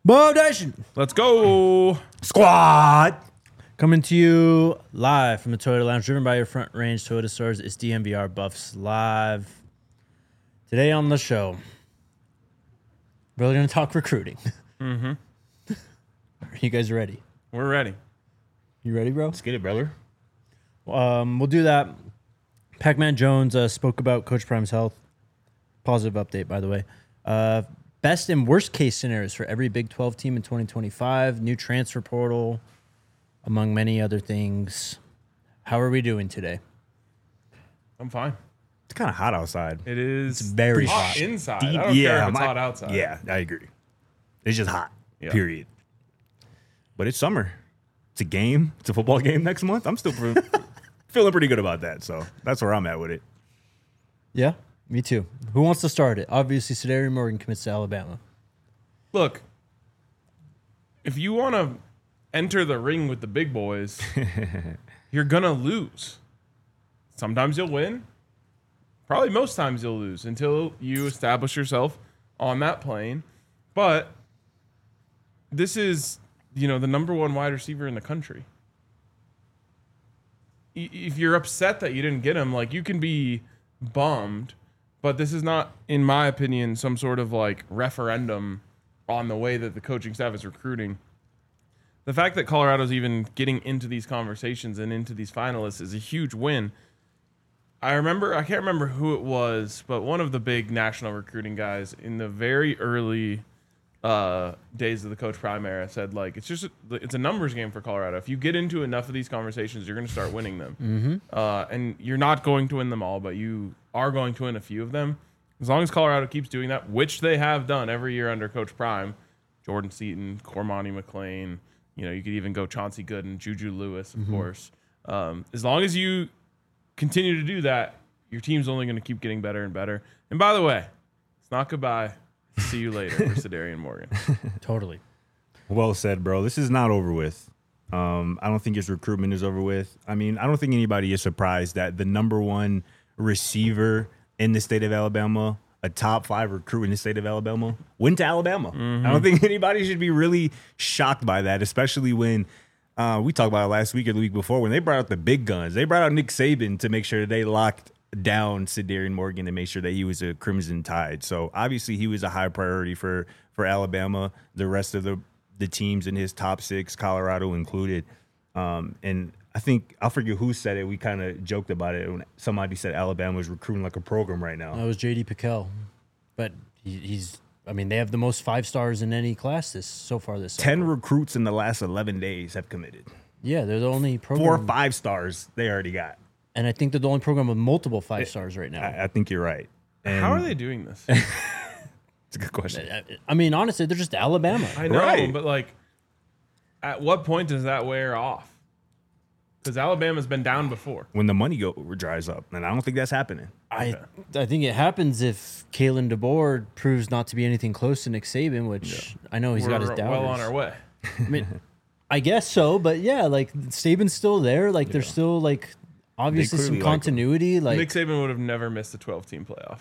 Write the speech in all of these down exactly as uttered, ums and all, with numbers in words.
Bow Nation Let's go. Squad. Coming to you live from the Toyota Lounge, driven by your Front Range Toyota stores. It's D M V R Buffs Live. Today on the show, we're going to talk recruiting. Mm-hmm. Are you guys ready? We're ready. You ready, bro? Let's get it, brother. Um, we'll do that. Pac-Man Jones uh, spoke about Coach Prime's health. Positive update, by the way. Uh, best and worst case scenarios for every Big twelve team in twenty twenty-five. New transfer portal, among many other things. How are we doing today? I'm fine. It's kind of hot outside. It is It's very hot hot. inside. Deep- I don't care if it's my- hot outside. Yeah, I agree. It's just hot. Yeah. Period. But it's summer. It's a game. It's a football game next month. I'm still pre- feeling pretty good about that. So that's where I'm at with it. Yeah, me too. Who wants to start it? Obviously, Sedarian Morgan commits to Alabama. Look, if you want to enter the ring with the big boys, you're going to lose. Sometimes you'll win. Probably most times you'll lose until you establish yourself on that plane. But this is, you know, the number one wide receiver in the country. I- If you're upset that you didn't get him, like, you can be bummed, but this is not, in my opinion, some sort of like referendum on the way that the coaching staff is recruiting. The fact that Colorado's even getting into these conversations and into these finalists is a huge win. I remember, I can't remember who it was, but one of the big national recruiting guys in the very early uh, days of the Coach Prime era said, like, it's just, a, it's a numbers game for Colorado. If you get into enough of these conversations, you're going to start winning them. Mm-hmm. Uh, and you're not going to win them all, but you are going to win a few of them. As long as Colorado keeps doing that, which they have done every year under Coach Prime, Jordan Seaton, Cormani McLean, you know, you could even go Chauncey Gooden, Juju Lewis, of mm-hmm. course. Um, as long as you continue to do that, your team's only going to keep getting better and better. And by the way, it's not goodbye. See you later for Sedarian Morgan. Totally. Well said, bro. This is not over with. Um, I don't think his recruitment is over with. I mean, I don't think anybody is surprised that the number one receiver in the state of Alabama, a top five recruit in the state of Alabama, went to Alabama. Mm-hmm. I don't think anybody should be really shocked by that, especially when uh, we talked about it last week or the week before when they brought out the big guns. They brought out Nick Saban to make sure that they locked down Sedarian Morgan and make sure that he was a Crimson Tide. So obviously he was a high priority for for Alabama, the rest of the the teams in his top six, Colorado included. Um, and I think, I forget who said it. We kind of joked about it when somebody said Alabama was recruiting like a program right now. That was J D Pickell. But he, he's, I mean, they have the most five stars in any class this so far this Ten cycle. recruits in the last eleven days have committed. Yeah, they're the only program. Four or five stars they already got. And I think they're the only program with multiple five stars right now. I, I think you're right. And How are they doing this? It's a good question. I, I mean, honestly, they're just Alabama. I know, Right. but like, at what point does that wear off? Because Alabama's been down before. When the money go dries up, and I don't think that's happening. I I think it happens if Kalen DeBoer proves not to be anything close to Nick Saban, which yeah. I know he's We're got his doubters. well on our way. I mean, I guess so, but yeah, like Saban's still there. Like yeah. there's still like obviously some continuity. Like, like Nick Saban would have never missed the twelve-team playoff.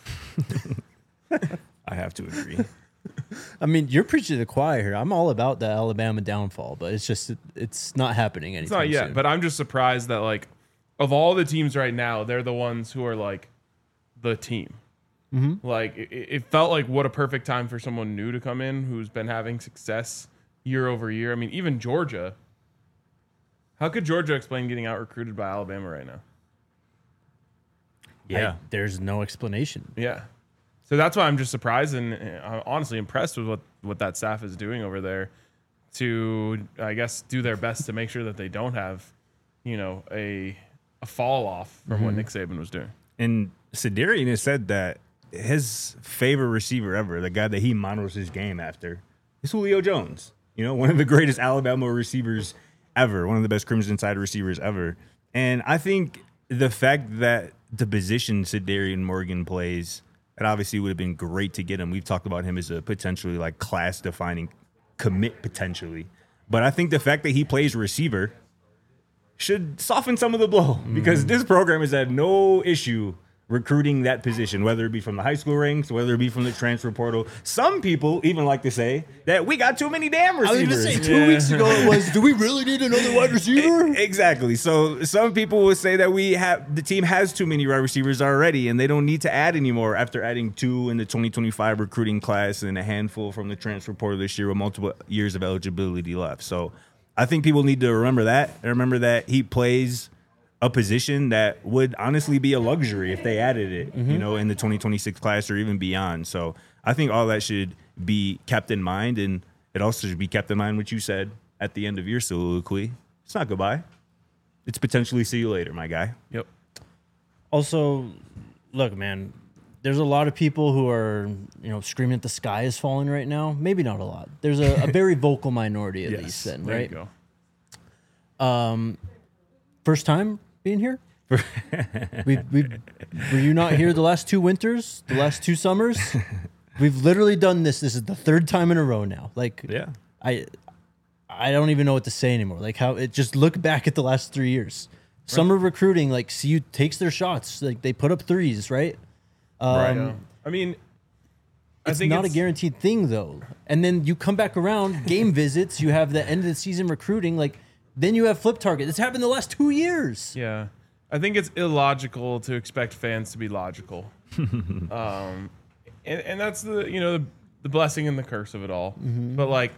I have to agree. I mean, you're preaching to the choir here. I'm all about the Alabama downfall, but it's just it's not happening anytime It's not yet, soon. but I'm just surprised that like of all the teams right now, they're the ones who are like the team. Mm-hmm. Like it, it felt like what a perfect time for someone new to come in who's been having success year over year. I mean, even Georgia. How could Georgia explain getting out recruited by Alabama right now? Yeah, I, there's no explanation. Yeah. So that's why I'm just surprised and I'm honestly impressed with what, what that staff is doing over there to, I guess, do their best to make sure that they don't have, you know, a a fall off from mm-hmm. what Nick Saban was doing. And Sedarian has said that his favorite receiver ever, the guy that he models his game after, is Julio Jones. You know, one of the greatest Alabama receivers ever, one of the best Crimson Tide receivers ever. And I think the fact that the position Sedarian Morgan plays, it obviously would have been great to get him. We've talked about him as a potentially like class-defining commit potentially. But I think the fact that he plays receiver should soften some of the blow mm. because this program has had no issue recruiting that position, whether it be from the high school ranks, whether it be from the transfer portal. Some people even like to say that we got too many damn I was receivers. going to say two Yeah. weeks ago it was, do we really need another wide receiver? Exactly. So some people will say that we have the team has too many wide receivers already, and they don't need to add anymore after adding two in the twenty twenty-five recruiting class and a handful from the transfer portal this year with multiple years of eligibility left. So I think people need to remember that and remember that he plays a position that would honestly be a luxury if they added it, mm-hmm. you know, in the twenty twenty-six class or even beyond. So I think all that should be kept in mind, and it also should be kept in mind what you said at the end of your soliloquy. It's not goodbye. It's potentially see you later, my guy. Yep. Also, look, man, there's a lot of people who are, you know, screaming that the sky is falling right now. Maybe not a lot. There's a, a very vocal minority at Yes, least then, There right? you go. Um, first time being here? we we were you not here the last two winters, the last two summers? We've literally done this. This is the third time in a row now. Like, Yeah. I I don't even know what to say anymore. Like how it just look back at the last three years. Summer recruiting, like C U takes their shots. Like they put up threes, right? Um, Right. Yeah. I mean, I It's think not it's, a guaranteed thing though. And then you come back around, game visits, you have the end of the season recruiting, like then you have flip target. It's happened the last two years. Yeah. I think it's illogical to expect fans to be logical. um, and, and that's the, you know, the, the blessing and the curse of it all. Mm-hmm. But like,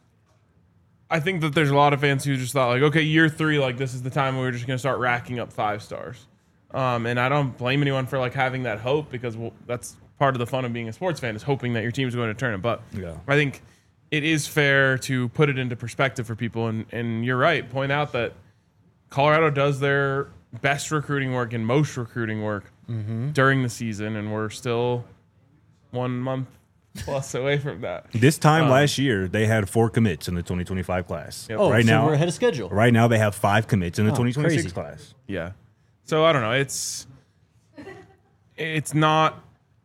I think that there's a lot of fans who just thought like, okay, year three, like this is the time we're just going to start racking up five stars. Um, and I don't blame anyone for like having that hope because well, that's part of the fun of being a sports fan is hoping that your team's going to turn it. But Yeah. I think it is fair to put it into perspective for people. And, and you're right. Point out that Colorado does their best recruiting work and most recruiting work Mm-hmm. during the season. And we're still one month plus away from that. This time last year, they had four commits in the twenty twenty-five class. Yep. Oh, right so now, we're ahead of schedule. right now they have five commits in the Oh, twenty twenty-six crazy. class. Yeah. So I don't know. It's it's not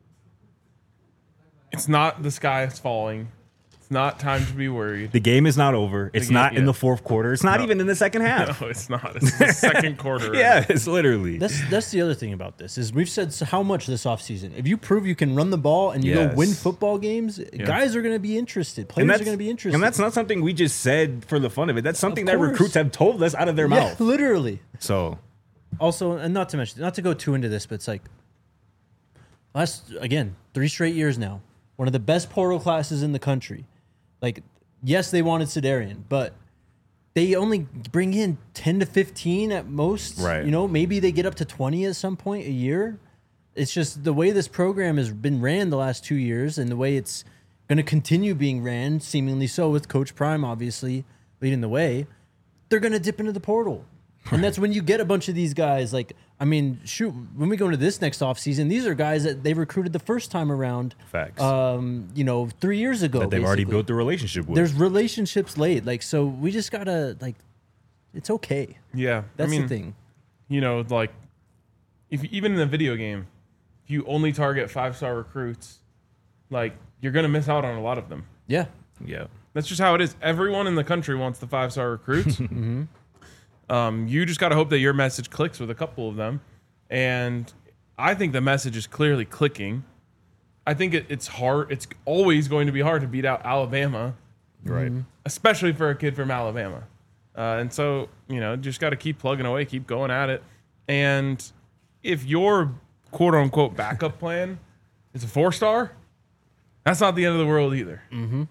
it's not the sky is falling. It's not time to be worried. The game is not over. It's game- not in yeah. the fourth quarter. It's not No. even in the second half. No, it's not. It's the second quarter. Yeah, it's literally. That's that's the other thing about this is we've said so how much this offseason. If you prove you can run the ball and you Yes. go win football games, guys are going to be interested. Players are going to be interested. And that's not something we just said for the fun of it. That's something that course. recruits have told us out of their yeah, mouth. literally. So Also, and not to mention, not to go too into this, but it's like last again three straight years now, one of the best portal classes in the country. Like, yes, they wanted Sedarian, but they only bring in ten to fifteen at most. Right. You know, maybe they get up to twenty at some point a year. It's just the way this program has been ran the last two years, and the way it's going to continue being ran, seemingly so, with Coach Prime obviously leading the way. They're going to dip into the portal. And that's when you get a bunch of these guys. Like, I mean, shoot, when we go into this next offseason, these are guys that they recruited the first time around. Facts. Um, you know, three years ago. that they've already basically. built the relationship with. There's relationships laid. Like, so we just got to, like, it's okay. Yeah. That's I mean, the thing. You know, like if even in a video game, if you only target five star recruits, like you're gonna miss out on a lot of them. Yeah. yeah. That's just how it is. Everyone in the country wants the five star recruits. Mm-hmm. um, you just got to hope that your message clicks with a couple of them. And I think the message is clearly clicking. I think it, it's hard. It's always going to be hard to beat out Alabama, Right. especially for a kid from Alabama. Uh, and so, you know, just got to keep plugging away, keep going at it. And if your quote unquote backup plan is a four star, that's not the end of the world either.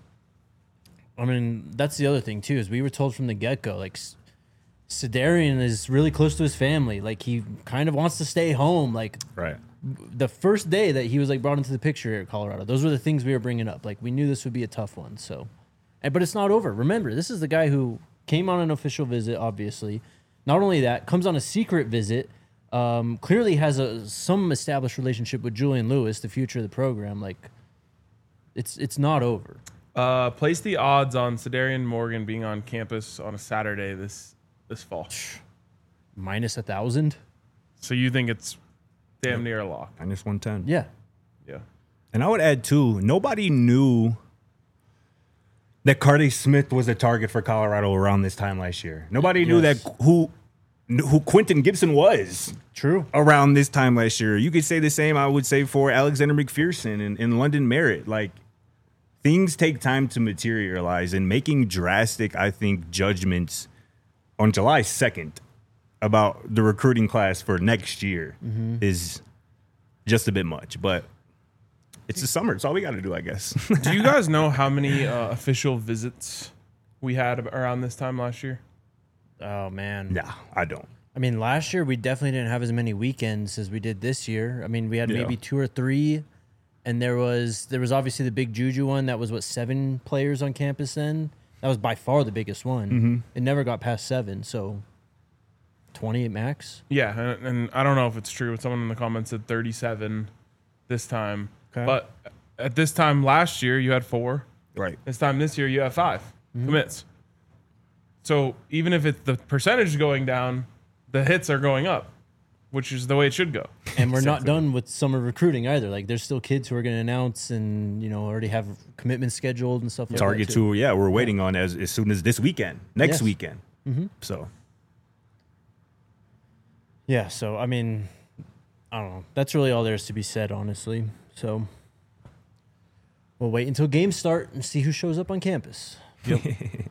I mean, that's the other thing, too, is we were told from the get-go, like, S- Sedarian is really close to his family. Like, he kind of wants to stay home. Like, Right. the first day that he was, like, brought into the picture here at Colorado, those were the things we were bringing up. Like, we knew this would be a tough one, so. And, but it's not over. Remember, this is the guy who came on an official visit, obviously. Not only that, comes on a secret visit, um, clearly has a some established relationship with Julian Lewis, the future of the program. Like, it's it's not over. Uh, place the odds on Sedarian Morgan being on campus on a Saturday this this fall. Minus a thousand? So you think it's damn near a lock? Minus one ten. Yeah. Yeah. And I would add, too, nobody knew that Cardi Smith was a target for Colorado around this time last year. Nobody knew Yes. that who who Quentin Gibson was True. around this time last year. You could say the same, I would say, for Alexander McPherson and, and London Merritt. Like, things take time to materialize, and making drastic, I think, judgments on July second about the recruiting class for next year mm-hmm. is just a bit much. But it's the summer. It's all we got to do, I guess. Do you guys know how many uh, official visits we had around this time last year? Oh, man. Nah, I don't. I mean, last year we definitely didn't have as many weekends as we did this year. I mean, we had Yeah. maybe two or three, and there was there was obviously the big Juju one that was, what, seven players on campus then? That was by far the biggest one. Mm-hmm. It never got past seven, so twenty at max. Yeah, and, and I don't know if it's true, but someone in the comments said thirty-seven this time. Okay. But at this time last year, you had four. Right. This time this year, you have five Mm-hmm. commits. So even if it's the percentage is going down, the hits are going up, which is the way it should go. And we're not Exactly. done with summer recruiting either. Like, there's still kids who are going to announce and, you know, already have commitments scheduled and stuff like Target that. too. two, yeah, we're waiting on as, as soon as this weekend, next Yes. weekend. Mm-hmm. So, Yeah, so, I mean, I don't know. That's really all there is to be said, honestly. So we'll wait until games start and see who shows up on campus. Yep.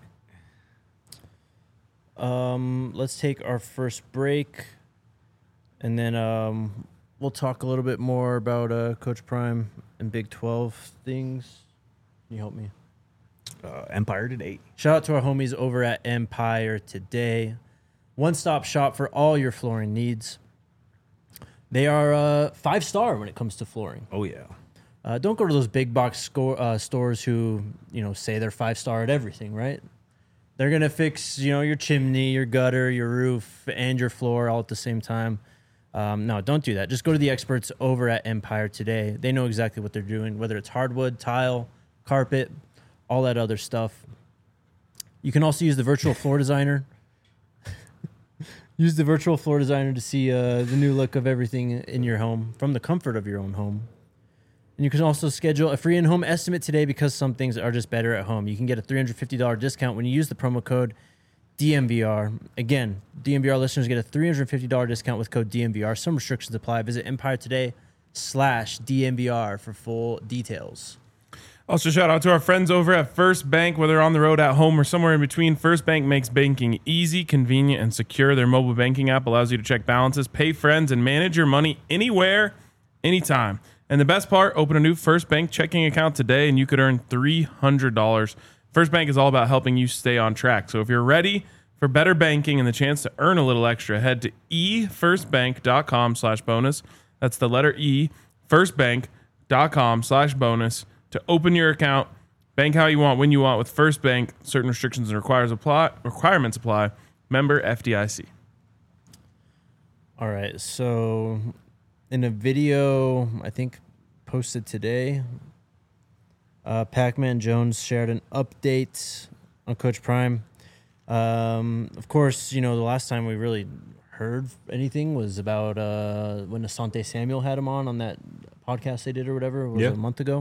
Um, let's take our first break, and then um, we'll talk a little bit more about uh, Coach Prime and Big twelve things. Can you help me? uh, Empire Today. Shout out to our homies over at Empire Today. One-stop shop for all your flooring needs. They are uh, five-star when it comes to flooring. Oh, yeah. Uh, don't go to those big box score, uh, stores who, you know, say they're five-star at everything, right? They're going to fix, you know, your chimney, your gutter, your roof, and your floor all at the same time. Um, no, don't do that. Just go to the experts over at Empire Today. They know exactly what they're doing, whether it's hardwood, tile, carpet, all that other stuff. You can also use the virtual floor designer. Use the virtual floor designer to see uh, the new look of everything in your home from the comfort of your own home. And you can also schedule a free in-home estimate today because some things are just better at home. You can get a three hundred fifty dollars discount when you use the promo code D M V R. Again, D M V R listeners get a three hundred fifty dollars discount with code D M V R. Some restrictions apply. Visit Empire Today slash D M V R for full details. Also, shout out to our friends over at First Bank. Whether on the road, at home, or somewhere in between, First Bank makes banking easy, convenient, and secure. Their mobile banking app allows you to check balances, pay friends, and manage your money anywhere, anytime. And the best part, open a new First Bank checking account today, and you could earn three hundred dollars. First Bank is all about helping you stay on track. So if you're ready for better banking and the chance to earn a little extra, head to efirstbank.com slash bonus. That's the letter E, firstbank.com slash bonus. To open your account, bank how you want, when you want with First Bank. Certain restrictions and requires apply, requirements apply. Member F D I C. All right, so in a video, I think posted today, uh, Pac-Man Jones shared an update on Coach Prime. Um, of course, you know, the last time we really heard anything was about uh, when Asante Samuel had him on on that podcast they did or whatever. Was Yeah. it a month ago?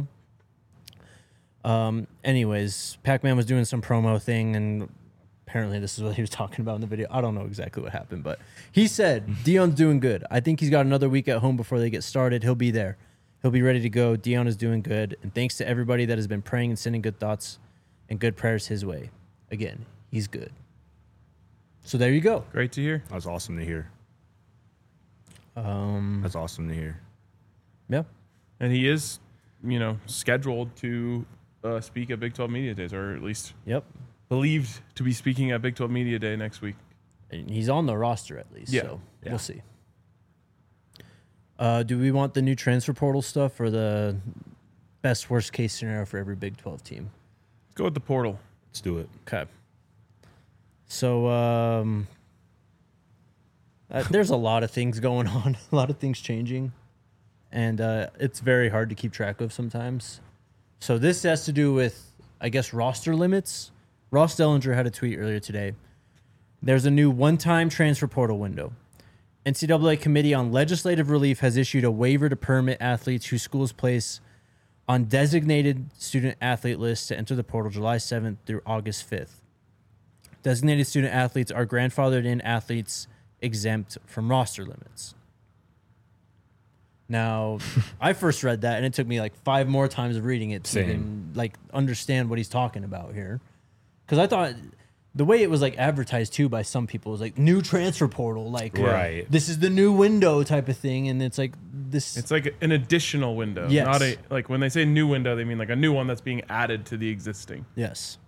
Um, anyways, Pac-Man was doing some promo thing, and apparently this is what he was talking about in the video. I don't know exactly what happened, but he said Deion's doing good. I think he's got another week at home before they get started. He'll be there. He'll be ready to go. Deion is doing good, and thanks to everybody that has been praying and sending good thoughts and good prayers his way. Again, he's good. So there you go. Great to hear. That's awesome to hear. Um, That's awesome to hear. yeah. And he is, you know, scheduled to uh, speak at Big twelve Media Days, or at least Yep. believed to be speaking at Big twelve Media Day next week. And he's on the roster at least. Yeah. So Yeah. we'll see. Uh, do we want the new transfer portal stuff or the best worst case scenario for every Big twelve team? Let's go with the portal. Let's do it. Okay. So um, uh, there's a lot of things going on, a lot of things changing, and uh, it's very hard to keep track of sometimes. So this has to do with, I guess, roster limits. Ross Dellinger had a tweet earlier today. There's a new one-time transfer portal window. N C double A Committee on Legislative Relief has issued a waiver to permit athletes whose schools place on designated student athlete lists to enter the portal July seventh through August fifth. Designated student athletes are grandfathered in athletes exempt from roster limits. Now, I first read that, and it took me like five more times of reading it to Same. even like understand what he's talking about here. Because I thought the way it was like advertised too by some people was like new transfer portal, like Right. this is the new window type of thing, and it's like this. It's like an additional window. Yes. Not a like when they say new window, they mean like a new one that's being added to the existing. Yes.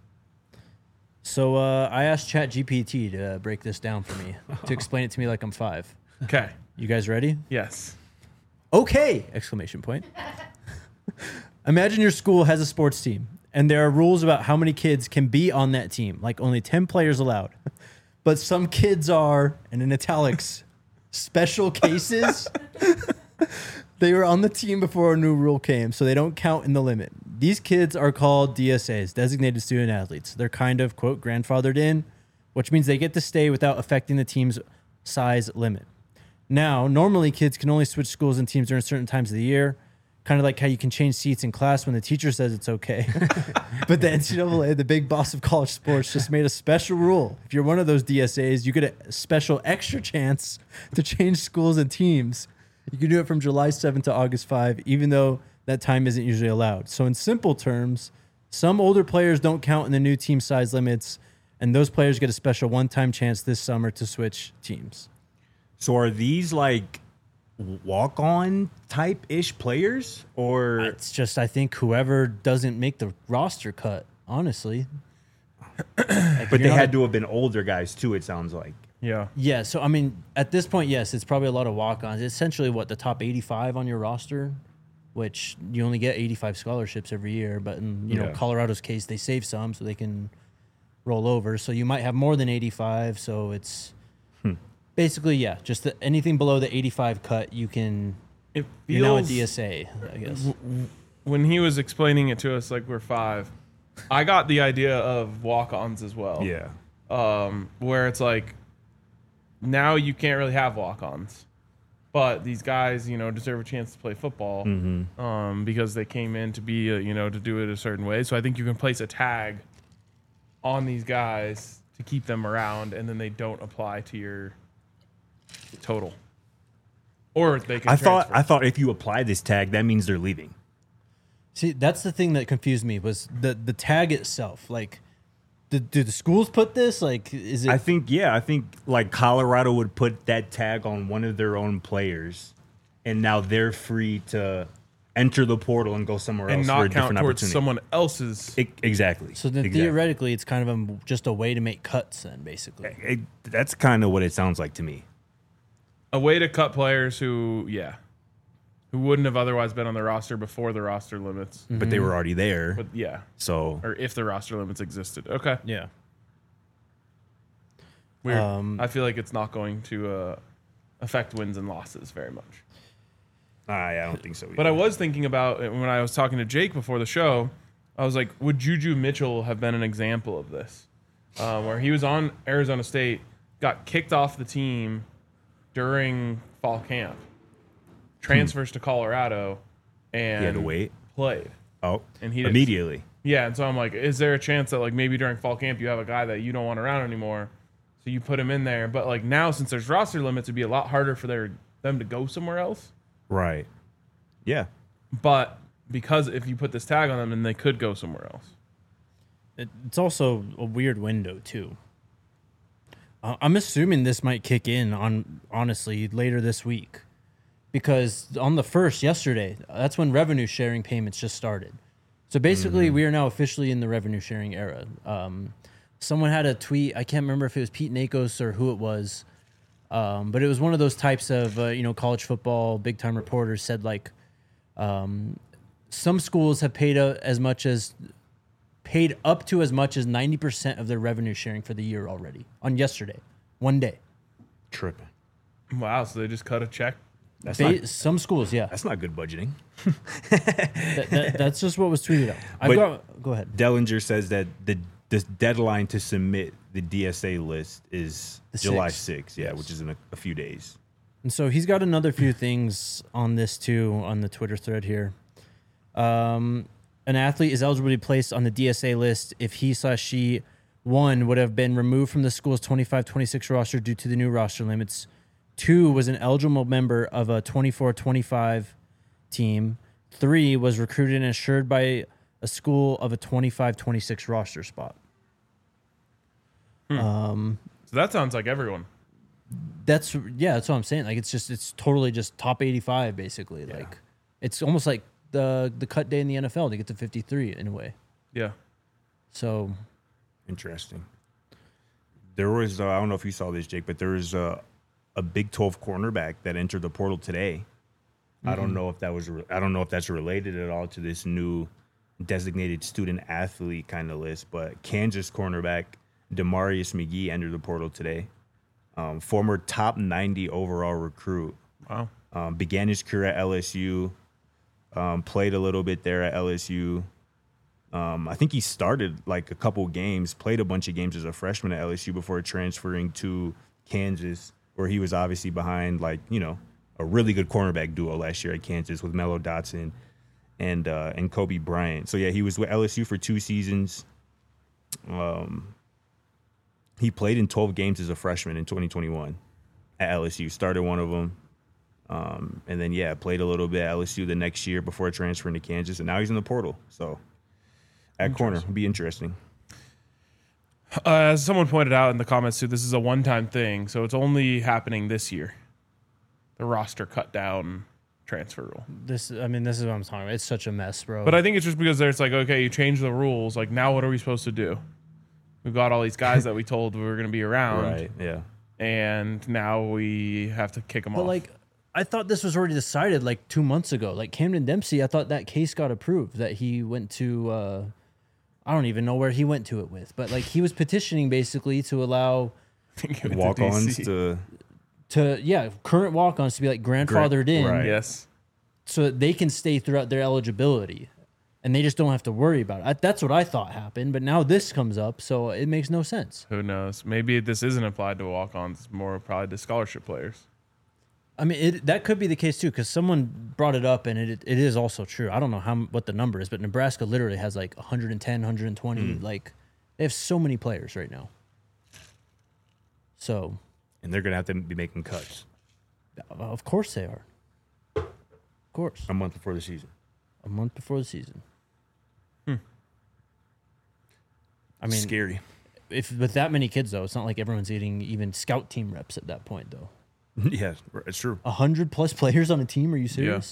So uh, I asked ChatGPT to break this down for me to explain it to me like I'm five. Okay. You guys ready? Yes. Okay! Exclamation point. Imagine your school has a sports team, and there are rules about how many kids can be on that team, like only ten players allowed. But some kids are, and in italics, special cases. They were on the team before a new rule came, so they don't count in the limit. These kids are called D S As, designated student athletes. They're kind of, quote, grandfathered in, which means they get to stay without affecting the team's size limit. Now, normally kids can only switch schools and teams during certain times of the year, kind of like how you can change seats in class when the teacher says it's okay. But the N C double A, the big boss of college sports, just made a special rule. If you're one of those D S As, you get a special extra chance to change schools and teams. You can do it from July seventh to August fifth, even though that time isn't usually allowed. So in simple terms, some older players don't count in the new team size limits, and those players get a special one-time chance this summer to switch teams. So are these like walk-on type-ish players, or It's just, I think, whoever doesn't make the roster cut, honestly. Like, but you're they not had a- to have been older guys too, it sounds like. Yeah. Yeah, so, I mean, at this point, yes, it's probably a lot of walk-ons. It's essentially, what, the top eighty-five on your roster, which you only get eighty-five scholarships every year. But in, you know, Yeah. Colorado's case, they save some so they can roll over. So you might have more than eighty-five, so it's basically, yeah, just the, anything below the eighty-five cut, you can, It you're now a feels D S A, I guess. when he was explaining it to us like we're five, I got the idea of walk-ons as well. Yeah. Um, where it's like now you can't really have walk-ons, but these guys, you know, deserve a chance to play football Mm-hmm. um, because they came in to be, a, you know, to do it a certain way. So I think you can place a tag on these guys to keep them around, and then they don't apply to your total, or they can. I thought transfer. I thought if you apply this tag, that means they're leaving. See, that's the thing that confused me was the, the tag itself. Like, do, do the schools put this? Like, is it... I think yeah, I think like Colorado would put that tag on one of their own players, and now they're free to enter the portal and go somewhere and else for a not count different towards opportunity. someone else's. E- exactly. So then Exactly. theoretically, it's kind of a, just a way to make cuts then, basically. It- that's kind of what it sounds like to me. A way to cut players who, yeah, who wouldn't have otherwise been on the roster before the roster limits. But they were already there, But yeah, so or if the roster limits existed. Okay, Yeah. weird. Um, I feel like it's not going to uh, affect wins and losses very much. I, I don't think so. But I either. was thinking about it when I was talking to Jake before the show. I was like, would Juju Mitchell have been an example of this? Uh, where he was on Arizona State, got kicked off the team during fall camp, transfers to Colorado, and He had to wait. played. Oh, And he didn't- immediately. Yeah, and so I'm like, is there a chance that like maybe during fall camp you have a guy that you don't want around anymore, so you put him in there? But like now, since there's roster limits, it'd be a lot harder for their them to go somewhere else. Right. Yeah. But because if you put this tag on them, then they could go somewhere else. It, it's also a weird window, too. Uh, I'm assuming this might kick in on, honestly, later this week. Because on the first, yesterday, that's when revenue sharing payments just started. So basically, Mm-hmm. we are now officially in the revenue sharing era. Um, someone had a tweet, I can't remember if it was Pete Nakos or who it was, um, but it was one of those types of, uh, you know, college football, big-time reporters said, like, um, some schools have paid uh, as much as, paid up to as much as ninety percent of their revenue sharing for the year already on yesterday, one day. Tripping. Wow, so they just cut a check. That's Ba- not. some schools, yeah. That's not good budgeting. That, that, that's just what was tweeted out. I've But- got, go ahead. Dellinger says that the the deadline to submit the D S A list is The July sixth. sixth. Yeah, which is in a, a few days. And so he's got another few things on this too on the Twitter thread here. Um, an athlete is eligible to be placed on the D S A list if he slash she One would have been removed from the school's twenty-five twenty-six roster due to the new roster limits. Two was an eligible member of a twenty-four twenty-five team. Three was recruited and assured by a school of a twenty-five twenty-six roster spot. Hmm. Um, So that sounds like everyone. that's yeah, that's what I'm saying. Like it's just it's totally just top eighty-five basically. Yeah. Like it's almost like the the cut day in the N F L to get to fifty-three in a way. Yeah. So Interesting. There was, uh, I don't know if you saw this, Jake, but there was uh, a Big twelve cornerback that entered the portal today. I don't know if that was, re- I don't know if that's related at all to this new designated student athlete kind of list, but Kansas cornerback Demarius McGee entered the portal today. Um, former top ninety overall recruit. Wow. Um, began his career at L S U, um, played a little bit there at L S U. Um, I think he started like a couple games, played a bunch of games as a freshman at L S U before transferring to Kansas, where he was obviously behind like, you know, a really good cornerback duo last year at Kansas with Mello Dotson and uh, and Kobe Bryant. So, yeah, he was with L S U for two seasons. Um, he played in twelve games as a freshman in twenty twenty-one at L S U, started one of them. Um, and then, yeah, played a little bit at L S U the next year before transferring to Kansas, and now he's in the portal. So, at corner, it'll be interesting. Uh, as someone pointed out in the comments too, this is a one-time thing, so it's only happening this year. The roster cut down transfer rule. this, I mean, this is what I'm talking about. It's such a mess, bro. But I think it's just because there's like, okay, you change the rules. Like, now what are we supposed to do? We've got all these guys that we told we were going to be around, Right, yeah. and now we have to kick them But off. like, I thought this was already decided like two months ago. Like Camden Dempsey, I thought that case got approved that he went to. Uh, I don't even know where he went to it with, but like he was petitioning basically to allow Walk-ons to to yeah current walk-ons to be like grandfathered in, right. yes. so that they can stay throughout their eligibility, and they just don't have to worry about it. I, that's what I thought happened, but now this comes up, so it makes no sense. Who knows? Maybe this isn't applied to walk-ons. It's more probably to scholarship players. I mean, it, that could be the case too, because someone brought it up, and it it is also true. I don't know how what the number is, but Nebraska literally has like one hundred ten, one hundred twenty. Mm. Like, they have so many players right now. So, and they're gonna have to be making cuts of course they are. Of course, a month before the season. a month before the season. Hmm. I mean, Scary. if with that many kids though, it's not like everyone's getting even scout team reps at that point though. Yeah, it's true. A hundred plus players on a team? Are you serious?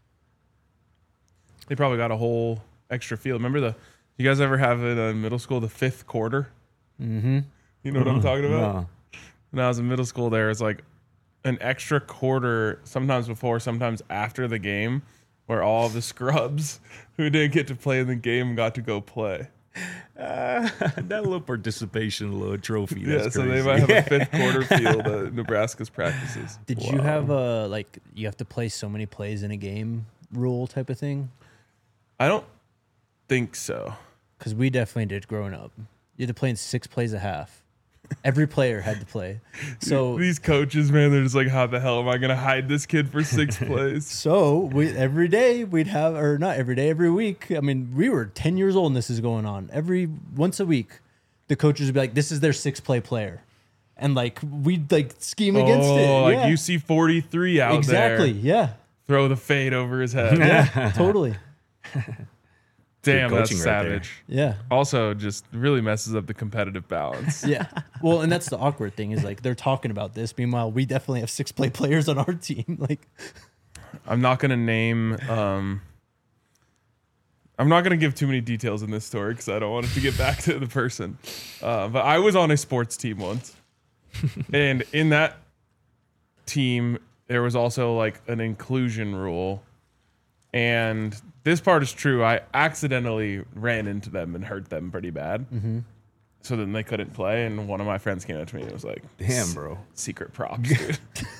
They probably got a whole extra field. Remember the? You guys ever have in uh, middle school the fifth quarter? Mm-hmm. You know what I'm talking about? No. When I was in middle school, there was like an extra quarter, sometimes before, sometimes after the game, where all the scrubs who didn't get to play in the game got to go play. Uh, that little participation, little trophy. Yeah, That's so they crazy. might have a fifth quarter field at Nebraska's practices. Did you have a like you have to play so many plays in a game rule type of thing? I don't think so. Because we definitely did growing up. You had to play in six plays a half. Every player had to play. So These coaches, man, they're just like, how the hell am I going to hide this kid for six plays? so we every day we'd have, or not every day, every week. I mean, we were ten years old and this is going on. Every once a week, the coaches would be like, "This is their six play player," and like we'd like scheme against it. Oh, like Yeah. you see forty-three out exactly. there. Yeah. Throw the fade over his head. Yeah. Totally. Damn, that's coaching right there. savage. Yeah. Also, just really messes up the competitive balance. Yeah. Well, and that's the awkward thing is like they're talking about this. Meanwhile, we definitely have six play players on our team. Like, I'm not going to name. Um, I'm not going to give too many details in this story because I don't want it to get back to the person. Uh, but I was on a sports team once, and in that team, there was also like an inclusion rule. And this part is true. I accidentally ran into them and hurt them pretty bad. mm-hmm. So then they couldn't play. And one of my friends came up to me and was like, Damn, bro. secret props, dude.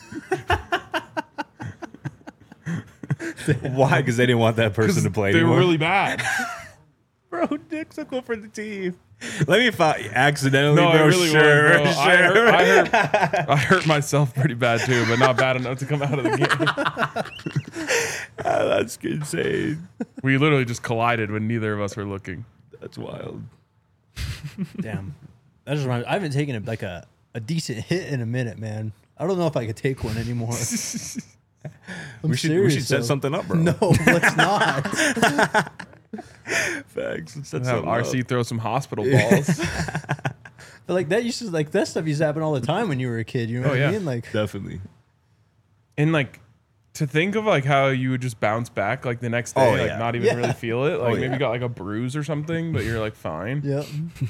Why? Because they didn't want that person to play They anymore. were really bad. Bro, Nick's a goal for the team. Let me find accidentally, No, bro. I really sure, was, bro. sure. I, hurt, I, hurt, I hurt myself pretty bad too, but not bad enough to come out of the game. Ah, that's insane. We literally just collided when neither of us were looking. That's wild. Damn. That just reminds, I haven't taken a, like a, a decent hit in a minute, man. I don't know if I could take one anymore. I'm we should serious, we should set though. something up, bro. No, let's not. Facts. Let's set Have something R C up. throw some hospital balls. But like that used to like that stuff used to happen all the time when you were a kid. You know Oh, what yeah. I mean? Like Definitely. And like to think of like how you would just bounce back like the next day, Oh, like yeah. not even Yeah. really feel it. Like Oh, maybe yeah. you got like a bruise or something, but you're like fine. yeah.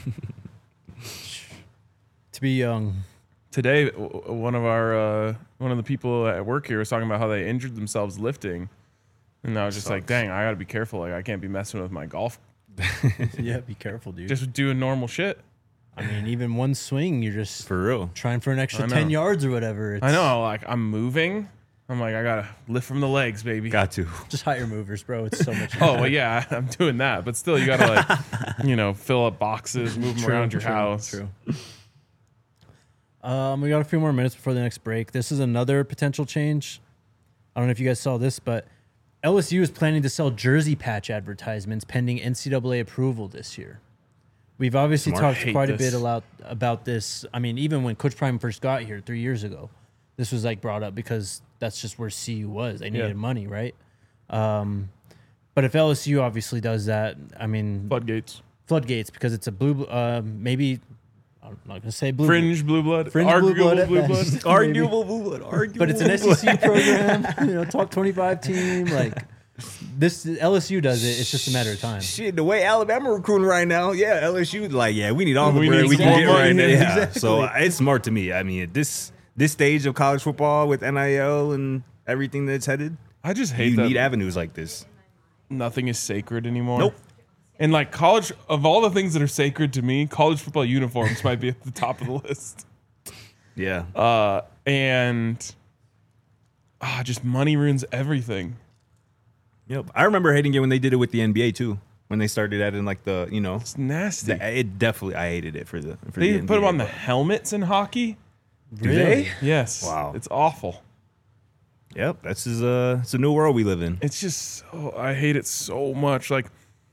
To be young. Today, w- w- one of our uh, one of the people at work here was talking about how they injured themselves lifting, and I was just like, Sucks. "Dang, I got to be careful. Like, I can't be messing with my golf. Yeah, be careful, dude. Just doing normal shit." I mean, even one swing, you're just For real. trying for an extra I know. ten yards or whatever. It's I know, like I'm moving. I'm like, I gotta lift from the legs, baby. Got to. Just higher movers, bro. It's so much. Oh well, yeah, I'm doing that, but still, you gotta like, you know, fill up boxes, move them True, around your true, house. True. Um, we got a few more minutes before the next break. This is another potential change. I don't know if you guys saw this, but L S U is planning to sell jersey patch advertisements pending N C double A approval this year. We've obviously Smart. talked Hate quite a this. bit about about this. I mean, even when Coach Prime first got here three years ago, this was like brought up because that's just where C U was. They needed Yeah. money, right? Um, but if L S U obviously does that, I mean, Floodgates, floodgates because it's a blue, uh, maybe I'm not gonna say blue, fringe blue blood, Fringe blue arguable blood at blue blood. best. Arguable blue blood. Arguable. but it's an S E C program, you know, top twenty-five team. Like this, L S U does it. It's just a matter of time. Shit, the way Alabama recruiting right now, yeah, L S U like, yeah, we need all the We bread need we some can more get money. right now. Yeah, Yeah. exactly. So uh, it's smart to me. I mean, at this this stage of college football with N I L and everything that's headed, I just hate you that need avenues like this. nothing is sacred anymore. Nope. And like college, of all the things that are sacred to me, college football uniforms might be at the top of the list. Yeah. Uh, and ah, just money ruins everything. Yep. I remember hating it when they did it with the N B A too. When they started adding like the, you know, It's nasty. the, it definitely I hated it for the for They the even put them N B A, on the but- helmets in hockey. Do Really? they? Yes. Wow. It's awful. Yep. This is a it's a new world we live in. It's just so, I hate it so much. Like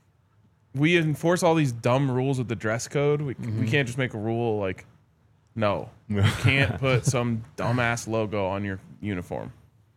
we enforce all these dumb rules with the dress code. We we can't just make a rule like no. You can't put some dumbass logo on your uniform.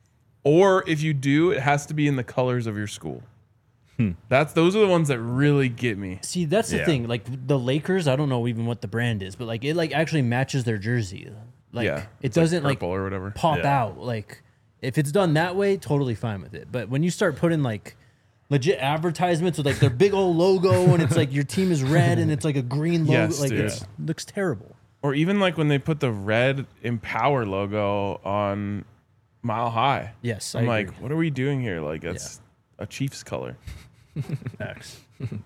Or if you do, it has to be in the colors of your school. That's those are the ones that really get me. See, that's the Yeah. thing. Like the Lakers, I don't know even what the brand is, but like it like actually matches their jersey. Like yeah. it It's like doesn't like, purple or whatever. pop Yeah. out. Like if it's done that way, totally fine with it. But when you start putting like legit advertisements with like their big old logo and it's like your team is red and it's like a green logo, Yes, like dude. it looks terrible. Or even like when they put the red Empower logo on Mile High. Yes, I I'm agree. like, what are we doing here? Like that's a Chiefs color. Facts.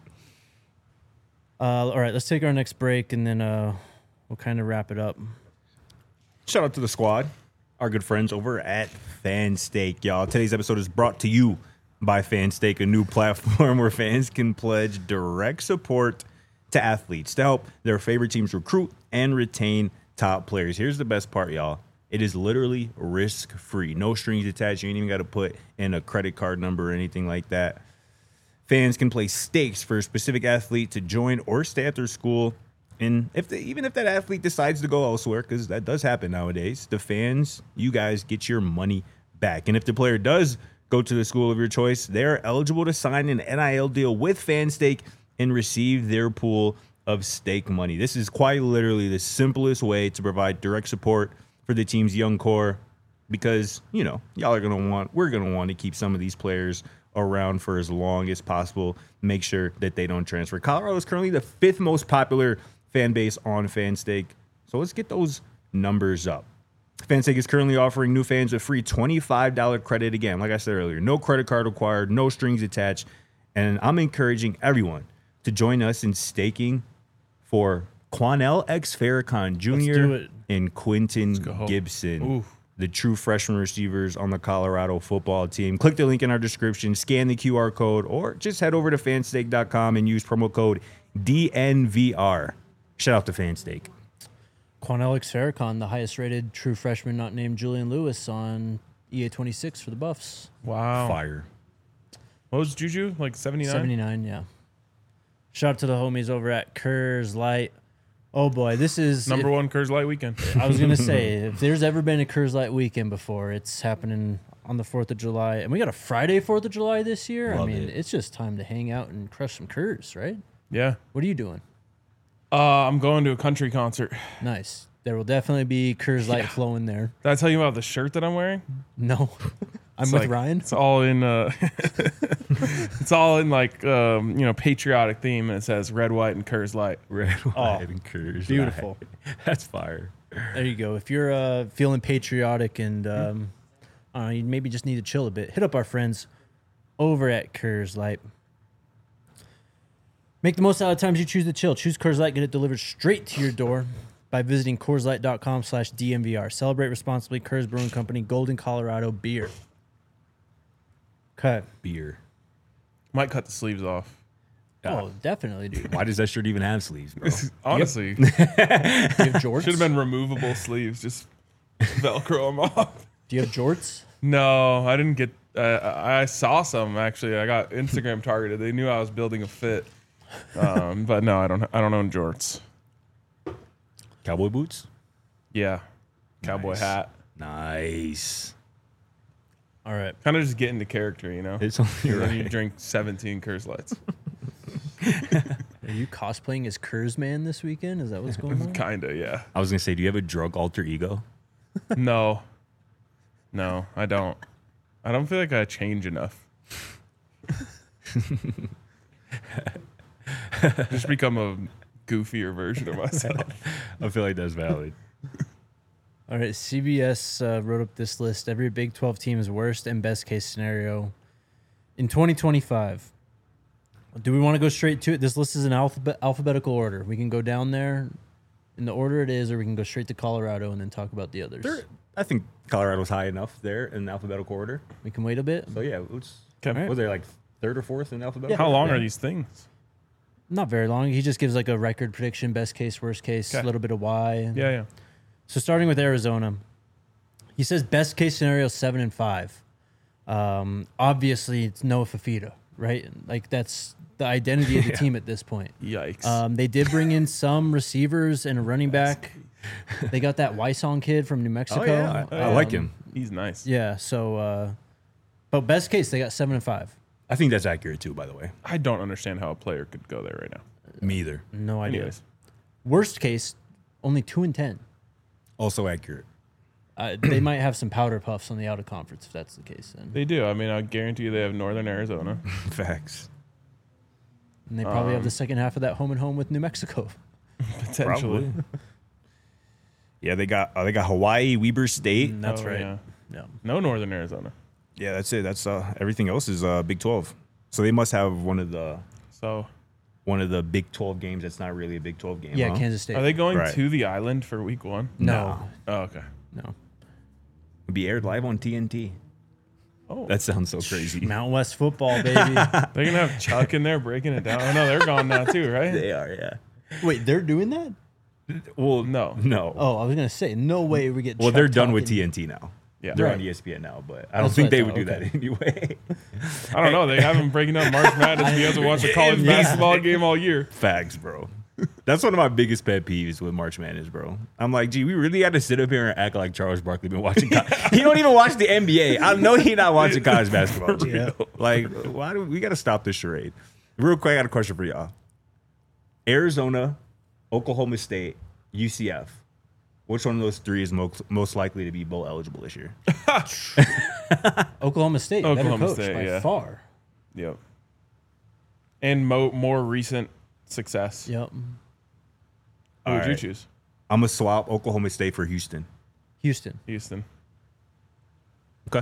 uh, all right, let's take our next break and then uh, we'll kind of wrap it up. Shout out to the squad, our good friends over at FanStake, y'all. Today's episode is brought to you by FanStake, a new platform where fans can pledge direct support to athletes to help their favorite teams recruit and retain top players. Here's the best part, y'all. It is literally risk-free. No strings attached. You ain't even got to put in a credit card number or anything like that. Fans can place stakes for a specific athlete to join or stay at their school. And if they, even if that athlete decides to go elsewhere, because that does happen nowadays, the fans, you guys get your money back. And if the player does go to the school of your choice, they're eligible to sign an N I L deal with FanStake and receive their pool of stake money. This is quite literally the simplest way to provide direct support for the team's young core because, you know, y'all are going to want, we're going to want to keep some of these players around for as long as possible. Make sure that they don't transfer. Colorado is currently the fifth most popular fan base on FanStake. So let's get those numbers up. FanStake is currently offering new fans a free twenty-five dollars credit. Again, like I said earlier, no credit card required, no strings attached. And I'm encouraging everyone to join us in staking for Quanell X Farrakhan do Junior it. and Quentin go. Gibson, Ooh. the true freshman receivers on the Colorado football team. Click the link in our description, scan the Q R code, or just head over to fanstake dot com and use promo code D N V R. Shout out to FanStake. Quanell X Farrakhan, the highest rated true freshman not named Julian Lewis on E A twenty-six for the Buffs. Wow. Fire. What was Juju? Like seventy-nine? seventy-nine, yeah. Shout out to the homies over at Kurz Light. Oh boy, this is Number if- one Coors Light weekend. I was gonna say, if there's ever been a Coors Light weekend before, it's happening on the Fourth of July, and we got a Friday Fourth of July this year. Love I mean, it. it's just time to hang out and crush some Coors, right? Yeah. What are you doing? Uh, I'm going to a country concert. Nice. There will definitely be Coors Light flowing there. Did I tell you about the shirt that I'm wearing? No, I'm It's with like- Ryan. It's all in uh it's all in like um, you know, patriotic theme, and it says red, white, and Coors Light. Red, white, and Coors beautiful. Light. That's fire. There you go. If you're uh, feeling patriotic and um, I don't know, you maybe just need to chill a bit, hit up our friends over at Coors Light. Make the most out of the times you choose to chill. Choose Coors Light, get it delivered straight to your door by visiting Coors Light dot com slash D M V R. Celebrate responsibly. Coors Brewing Company, Golden, Colorado beer. Okay. Beer. Might cut the sleeves off. Oh, definitely, dude. Why does that shirt even have sleeves, bro? Honestly, Do you have jorts? should have been removable sleeves. Just Velcro them off. Do you have jorts? No, I didn't get. Uh, I saw some actually. I got Instagram targeted. They knew I was building a fit, um, but no, I don't. I don't own jorts. Cowboy boots? Yeah, cowboy Nice. hat. Nice. All right. Kind of just get into character, you know. It's only And then you right. drink seventeen Coors Lights. Are you cosplaying as Coors Man this weekend? Is that what's going on? Kinda, yeah. I was gonna say, do you have a drug alter ego? No, no, I don't. I don't feel like I change enough. Just become a goofier version of myself. I feel like that's valid. All right, C B S uh, wrote up this list. Every Big twelve team's worst and best case scenario in twenty twenty-five. Do we want to go straight to it? This list is in alphabet alphabetical order. We can go down there in the order it is, or we can go straight to Colorado and then talk about the others. They're- I think Colorado's high enough there in alphabetical order. We can wait a bit. So yeah, let's. Okay. Was there like third or fourth in alphabetical? How long order? are these things? Not very long. He just gives like a record prediction, best case, worst case, a Okay. little bit of why. Yeah, yeah. So starting with Arizona, he says best case scenario seven and five. Um, obviously, it's Noah Fafita, right? Like that's the identity of the Yeah. team at this point. Yikes. Um, they did bring in some receivers and a running back. They got that Wysong kid from New Mexico. Oh yeah, I, I like Um, him. He's nice. Yeah. So, uh, but best case they got seven and five. I think that's accurate too. By the way, I don't understand how a player could go there right now. me either. No idea. Anyways, Worst case, only two and ten. Also accurate. Uh, they might have some powder puffs on the out of conference if that's the case. Then they do. I mean, I guarantee you they have Northern Arizona. Facts. and they probably have Um, the second half of that home and home with New Mexico. Potentially. Yeah, they got uh, they got Hawaii, Weber State. Mm, that's Oh, right. yeah. Yeah. No Northern Arizona. Yeah, that's it. That's uh, everything else is uh, Big twelve. So they must have one of the So one of the Big twelve games that's not really a Big twelve game. Yeah, huh? Kansas State. are they going Right. to the island for week one? No, Oh, okay. no. It'll be aired live on T N T. Oh, That sounds so crazy. Mountain West football, baby. they're gonna have Chuck in there breaking it down. Oh no, they're gone now too, right? They are, yeah. Wait, they're doing that? Well, No. no. Oh, I was gonna say, no way we get. well, Chuck they're done with talking- T N T now. Yeah. They're Right. on E S P N now, but I don't That's think what I they thought, would do that okay. anyway. I don't know. They have him breaking down March Madness. He hasn't watched a college Yeah. basketball game all year. Facts, bro. That's one of my biggest pet peeves with March Madness, bro. I'm like, gee, we really got to sit up here and act like Charles Barkley been watching. Co- he don't even watch the N B A. I know he not watching college basketball. G. Yeah. Like, why do we got to stop this charade? Real quick, I got a question for y'all. Arizona, Oklahoma State, U C F. Which one of those three is most most likely to be bowl eligible this year? Oklahoma State, Oklahoma better coach State, by yeah. far. Yep. And mo- more recent success. Yep. Who All would you right. choose? I'm gonna swap Oklahoma State for Houston. Houston. Houston. Okay.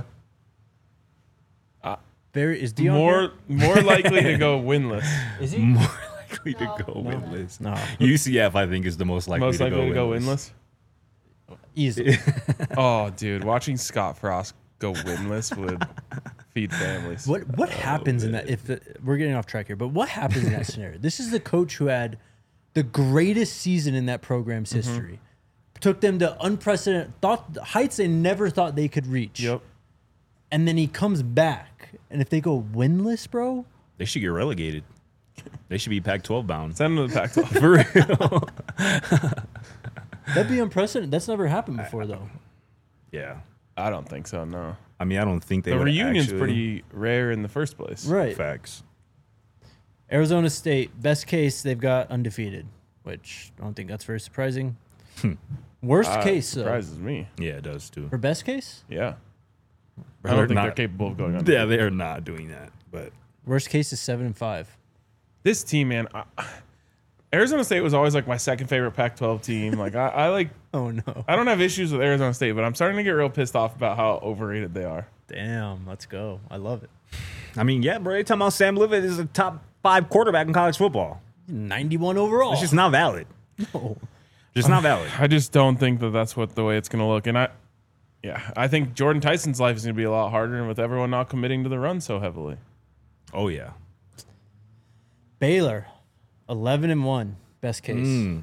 Very is Dion More here? more likely to go winless. Is he? More likely to go winless. No, U C F, I think, is the most likely, Most to, likely go to go winless. winless. easy. Oh, dude, watching Scott Frost go winless would feed families. What what happens in that? If the, we're getting off track here, but what happens in that scenario? This is the coach who had the greatest season in that program's Mm-hmm. history. Took them to unprecedented thought heights they never thought they could reach. Yep. And then he comes back, and if they go winless, bro, They should get relegated. They should be Pac twelve bound. Send them to the Pac twelve. For real. That'd be unprecedented. That's never happened before, though. Yeah. I don't think so, no. I mean, I don't think they The would reunion's actually- pretty rare in the first place. Right. Facts. Arizona State, best case, they've got undefeated, which I don't think that's very surprising. Worst Uh, case, though, surprises me. Yeah, it does too. for best case? Yeah. I They're don't think not- they're capable of going on. Yeah, they are not doing that. But Worst case is seven and five. This team, man, I, Arizona State was always like my second favorite Pac twelve team. Like I, I like, Oh, no. I don't have issues with Arizona State, but I'm starting to get real pissed off about how overrated they are. Damn, let's go. I love it. I mean, yeah, bro. You're talking about Sam Levitt is a top five quarterback in college football. ninety-one overall. It's just not valid. No. Just not valid. I just don't think that that's what the way it's going to look. And I, yeah, I think Jordan Tyson's life is going to be a lot harder, and with everyone not committing to the run so heavily. Oh yeah. Baylor, eleven and one, best case. Mm.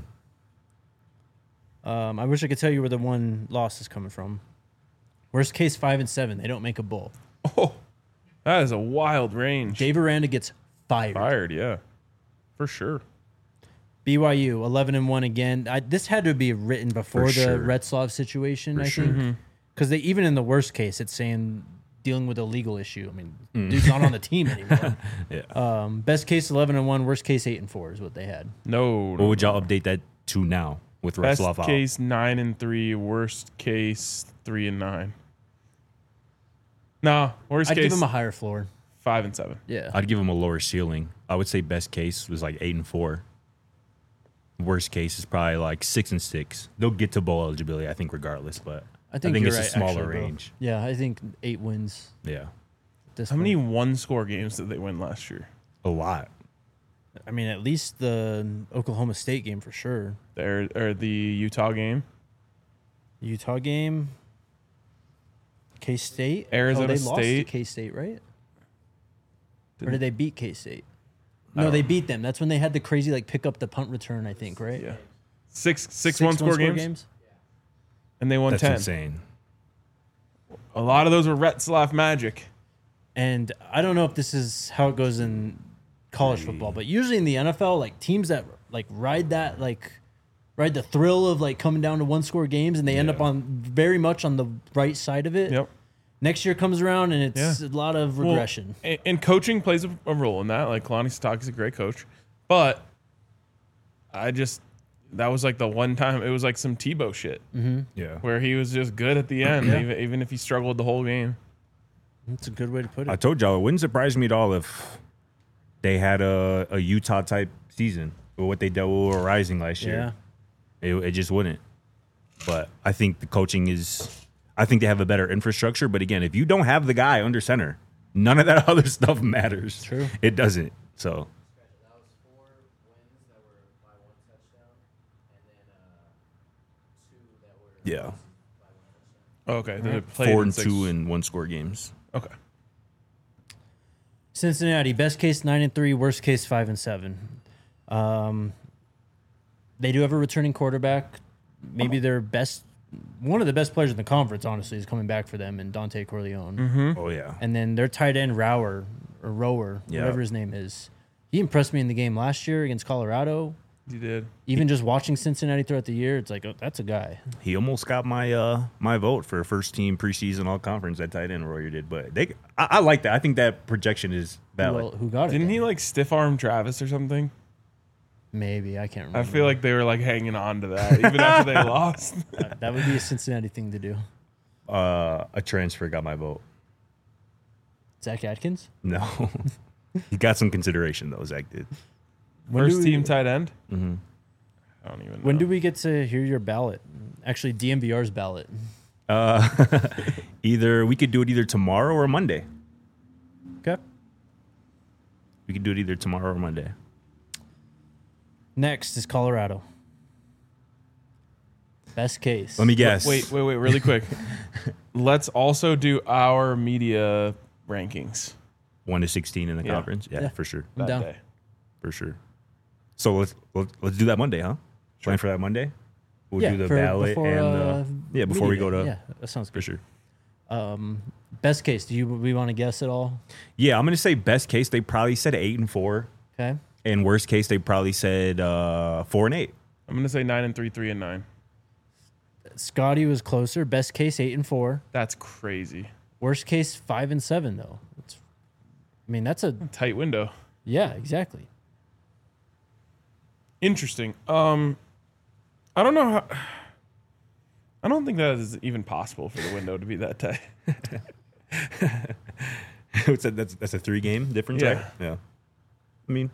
Um, I wish I could tell you where the one loss is coming from. Worst case, five and seven. They don't make a bowl. Oh, that is a wild range. Dave Aranda gets fired. Fired, yeah, for sure. B Y U, eleven and one again. I, this had to be written before For the sure. Retzlaff situation, For I sure. think. Because they even in the worst case, it's saying dealing with a legal issue. I mean, Mm. dude's not on the team anymore. Yeah. Um, best case, eleven and one. Worst case, eight and four is what they had. No, What no, would y'all update that to now with best Retzlaff out? case nine and three. Worst case three and nine. No, worst I'd case give him a higher floor. five and seven. Yeah. I'd give him a lower ceiling. I would say best case was like eight and four. Worst case is probably like six and six. They'll get to bowl eligibility, I think, regardless. But I think, I think you're it's right, a smaller actually, bro. range. Yeah, I think eight wins. Yeah, This How many point. one score games did they win last year? a lot. I mean, at least the Oklahoma State game for sure. There or the Utah game. Utah game. K State. Arizona oh, they lost to State. K State, right? or Didn't- did they beat K State? I No, don't they know. beat them. That's when they had the crazy like pick up the punt return. I think, right? Yeah, six six, one score games, and they won That's ten. insane. A lot of those were Retzlaff magic. And I don't know if this is how it goes in college football, but usually in the N F L, like teams that like ride that like ride the thrill of like coming down to one score games, and they end Yeah. up on very much on the right side of it. Yep. Next year comes around and it's Yeah. a lot of Well, regression. and, and coaching plays a, a role in that. Like Kalani Sitake's a great coach, but I just that was like the one time it was like some Tebow shit Yeah. where he was just good at the end, even, even if he struggled the whole game. That's a good way to put it. I told y'all it wouldn't surprise me at all if they had a, a Utah type season with what they dealt with Rising last year. yeah. It, it just wouldn't. But I think the coaching is. I think they have a better infrastructure. But again, if you don't have the guy under center, none of that other stuff matters. True. It doesn't. So That was four wins that were by one touchdown, and then uh, two that were yeah, by one touchdown. Okay, they played four in and six- two and one score games. Okay, Cincinnati, best case nine and three, worst case five and seven. Um, they do have a returning quarterback. Maybe their best, one of the best players in the conference, honestly, is coming back for them, and Dante Corleone. Mm-hmm. Oh yeah, And then their tight end Rower or Rower, Yeah. whatever his name is, he impressed me in the game last year against Colorado. you did. Even just watching Cincinnati throughout the year, it's like, oh, that's a guy. he almost got my uh my vote for first team preseason all conference at tight end. Royer did, but they I, I like that. I think that projection is valid. Well, who got it? Didn't then? he like stiff arm Travis or something? Maybe I can't remember. I feel like they were like hanging on to that even after they lost. that, that would be a Cincinnati thing to do. uh, a transfer got my vote. Zach Atkins. No, he got some consideration though. Zach did. When First do we- team tight end. Mm-hmm. I don't even know. When do we get to hear your ballot? Actually, D M V R's ballot. Uh, either we could do it either tomorrow or Monday. Okay. We could do it either tomorrow or Monday. Next is Colorado. Best case. Let me guess. Wait, wait, wait, really quick. Let's also do our media rankings One to sixteen in the Yeah. conference. Yeah, Yeah. for sure, I'm that down. day. for sure. So let's let's, let's do that Monday, huh? Plan for that Monday. We'll yeah, do the for- ballot before, and the, uh, yeah before we media go day. to Yeah, that sounds for good. sure. Um, best case. Do you we want to guess at all? Yeah, I'm gonna say best case. They probably said eight and four. Okay. And worst case, they probably said uh, four and eight. I'm gonna say nine and three, three and nine. Scotty was closer. Best case, eight and four. That's crazy. Worst case, five and seven, though. It's, I mean, that's a Tight window. yeah, exactly. Interesting. Um, I don't know how. I don't think that is even possible for the window to be that tight. What's that? That's that's a three game difference, Yeah. right? Yeah. I mean,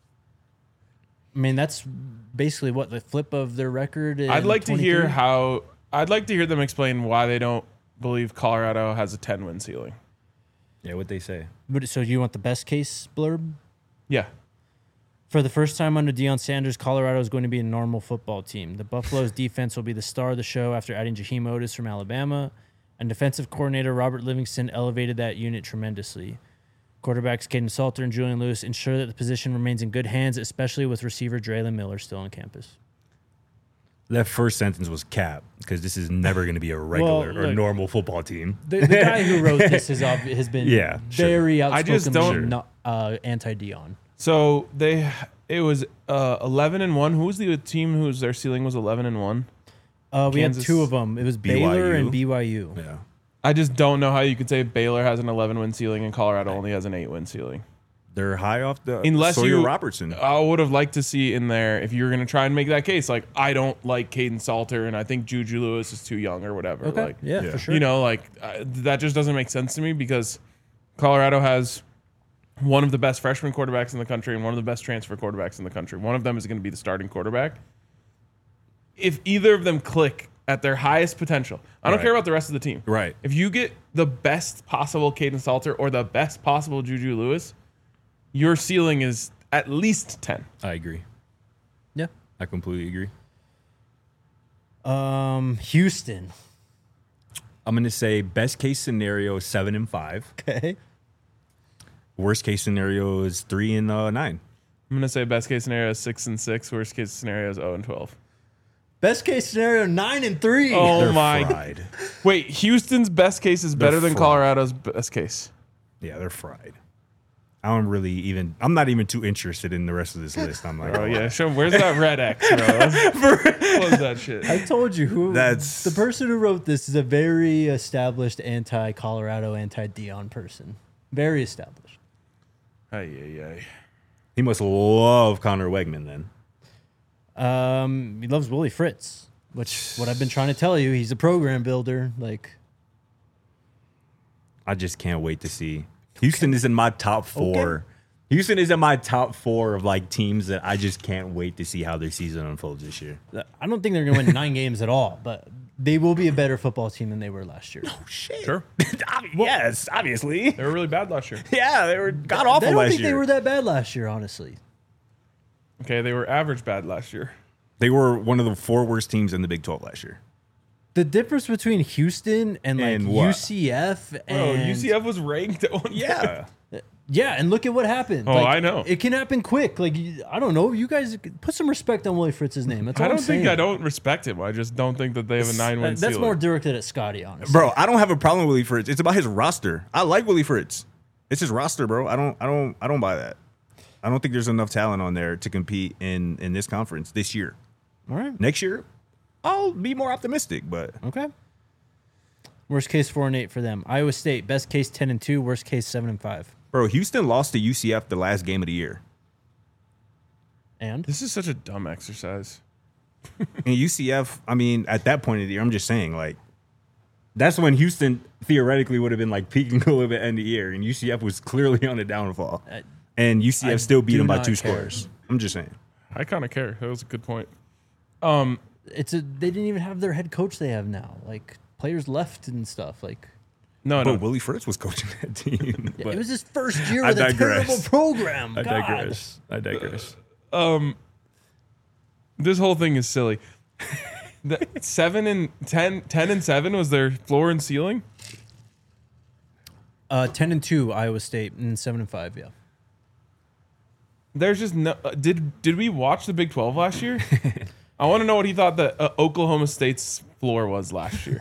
I mean, that's basically what the flip of their record. In I'd like to hear twenty-three? how. I'd like to hear them explain why they don't believe Colorado has a ten win ceiling. yeah, what they say. But, so you want the best case blurb? Yeah. For the first time under Deion Sanders, Colorado is going to be a normal football team. The Buffalo's defense will be the star of the show after adding Jaheim Otis from Alabama, and defensive coordinator Robert Livingston elevated that unit tremendously. Quarterbacks Caden Salter and Julian Lewis ensure that the position remains in good hands, especially with receiver Draylon Miller still on campus. That first sentence was cap because this is never going to be a regular Well, or look, normal football team. The, the guy who wrote this has, obvi- has been Yeah, sure. very I just outspokenly don't- not, uh, anti-Deion. So they, it was uh, eleven and one. Who was the team whose their ceiling was eleven and one? Uh, we Kansas- had two of them. It was B Y U. Baylor and B Y U. Yeah. I just don't know how you could say Baylor has an eleven win ceiling and Colorado only has an eight win ceiling. They're high off the Unless Sawyer you, Robertson. I would have liked to see in there if you were going to try and make that case. Like, I don't like Caden Salter, and I think Juju Lewis is too young or whatever. Okay, Like, yeah, yeah. for sure. you know, like uh, that just doesn't make sense to me because Colorado has one of the best freshman quarterbacks in the country and one of the best transfer quarterbacks in the country. One of them is going to be the starting quarterback. If either of them click at their highest potential, I don't Right. care about the rest of the team. Right. If you get the best possible Caden Salter or the best possible Juju Lewis, your ceiling is at least ten. I agree. Yeah. I completely agree. Um, Houston. I'm going to say best case scenario is seven and five. Okay. Worst case scenario is three and uh, nine. I'm gonna say best case scenario is six and six. Worst case scenario is zero and twelve. Best case scenario, nine and three. Oh They're my! fried. Wait, Houston's best case is better than fried. Colorado's best case. Yeah, they're fried. I don't really even. I'm not even too interested in the rest of this list. I'm like, Oh yeah, show 'em- where's that red X, bro? Let's close that shit. I told you who. That's- the person who wrote this is a very established anti-Colorado, anti-Deion person. Very established. Ay, ay, ay. he must love Connor Wegman then. Um, he loves Willie Fritz, which what I've been trying to tell you. He's a program builder. Like, I just can't wait to see. Houston is in my top four. Okay. Houston is in my top four of like teams that I just can't wait to see how their season unfolds this year. I don't think they're going to win nine games at all, but they will be a better football team than they were last year. Shit. Sure. yes, obviously. They were really bad last year. Yeah, they were god I awful don't last think year. they were that bad last year, honestly. Okay, they were average bad last year. They were one of the four worst teams in the Big twelve last year. The difference between Houston and like And what? U C F and Bro, U C F was ranked at one. Yeah. yeah, and look at what happened. Oh, Like, I know. it can happen quick. Like you- I don't know, you guys put some respect on Willie Fritz's name. That's all I don't I'm think saying. I don't respect him. I just don't think that they have a nine win That- That's ceiling. more directed at Scotty, honestly. Bro, I don't have a problem with Willie Fritz. It's about his roster. I like Willie Fritz. It's his roster, bro. I don't I don't I don't buy that. I don't think there's enough talent on there to compete in in this conference this year. All right. Next year, I'll be more optimistic, but Okay. Worst case four and eight for them. Iowa State, best case ten and two, worst case seven and five. bro, Houston lost to U C F the last game of the year. And This is such a dumb exercise. And U C F, I mean, at that point of the year, I'm just saying, like, that's when Houston theoretically would have been like peaking a little bit end of the year, and U C F was clearly on a downfall. Uh, And U C F I still beat do them by not two care. scores. I'm just saying. I kind of care. That was a good point. Um, it's a they didn't even have their head coach they have now. Like players left and stuff. Like no, no. But Willie Fritz was coaching that team. yeah, But it was his first year I with a digress. terrible program. I God. digress. I digress. Um, this whole thing is silly. The seven and ten, ten and seven was their floor and ceiling. Uh, ten and two Iowa State and seven and five. Yeah. There's just no. Uh, did did we watch the Big twelve last year? I want to know what he thought that uh, Oklahoma State's floor was last year.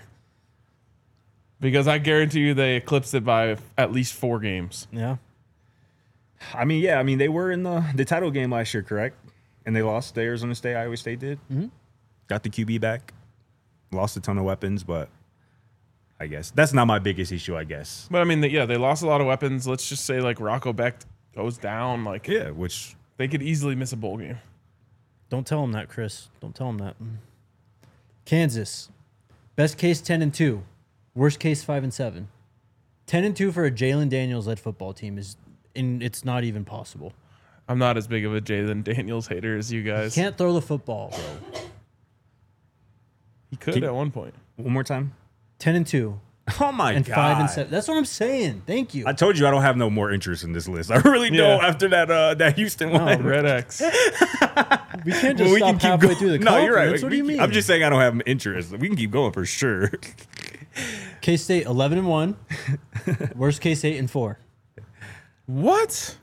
Because I guarantee you they eclipsed it by at least four games. Yeah. I mean, yeah, I mean they were in the the title game last year, correct? And they lost to Arizona State. Iowa State did. Mm-hmm. Got the Q B back. Lost a ton of weapons, but I guess that's not my biggest issue. I guess. But I mean, yeah, they lost a lot of weapons. Let's just say like Rocco Beck goes down. Like, Yeah, which they could easily miss a bowl game. Don't tell him that, Chris. Don't tell him that. Kansas, best case ten and two, worst case five and seven. Ten and two for a Jalen Daniels led football team is, in it's not even possible. I'm not as big of a Jalen Daniels hater as you guys. Can't throw the football, bro. He could Keep- at one point. one more time. Ten and two Oh my and god! five and seven. That's what I'm saying. Thank you. I told you I don't have no more interest in this list. I really Yeah. don't after that uh, that Houston one. Red X. we can't just Well, we stop can keep halfway going. through the No, you're right. conference. What We do you keep- mean? I'm just saying I don't have interest. We can keep going for sure. K-State eleven and one, worst case eight and four. What?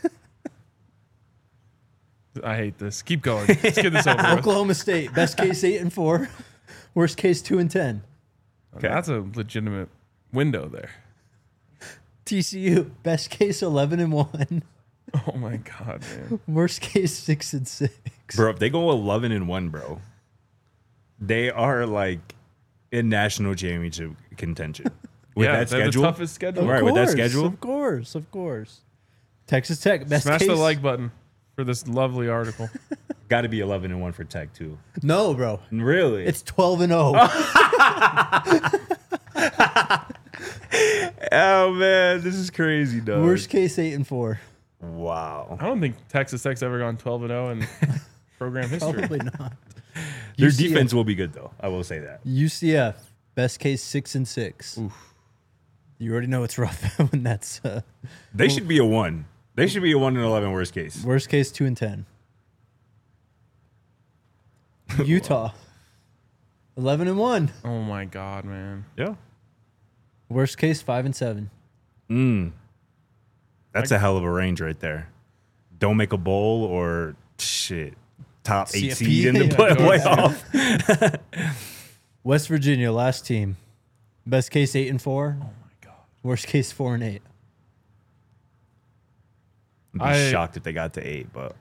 I hate this. Keep going. Let's get this over with. Oklahoma State, best case eight and four, worst case two and ten. Okay. That's a legitimate window there. T C U, best case eleven and one, Oh my god, man. worst case six and six. Bro, if they go eleven and one, bro, they are like in national championship contention. With yeah, that they're schedule. the toughest schedule. Of Right, with that course, schedule? Of course, of course. Texas Tech, best Smash case. the like button for this lovely article. Got to be eleven and one for Tech too. No, bro. Really? It's twelve and oh. oh man, this is crazy, dog. Worst case eight and four. Wow. I don't think Texas Tech's ever gone twelve and oh in program history. Probably not. Their U C F defense will be good though. I will say that. U C F, best case six and six. You already know it's rough when that's uh, They should be a one. They should be a one and eleven worst case. worst case two and ten. Utah, eleven and one. Oh my god, man. Yeah. Worst case five and seven. Mm. That's a hell of a range right there. Don't make a bowl or shit. Top eight C F P. seed in the Yeah, play- go playoff. West Virginia, last team, best case eight and four. Oh my god. Worst case four and eight. I'd be I- shocked if they got to eight, but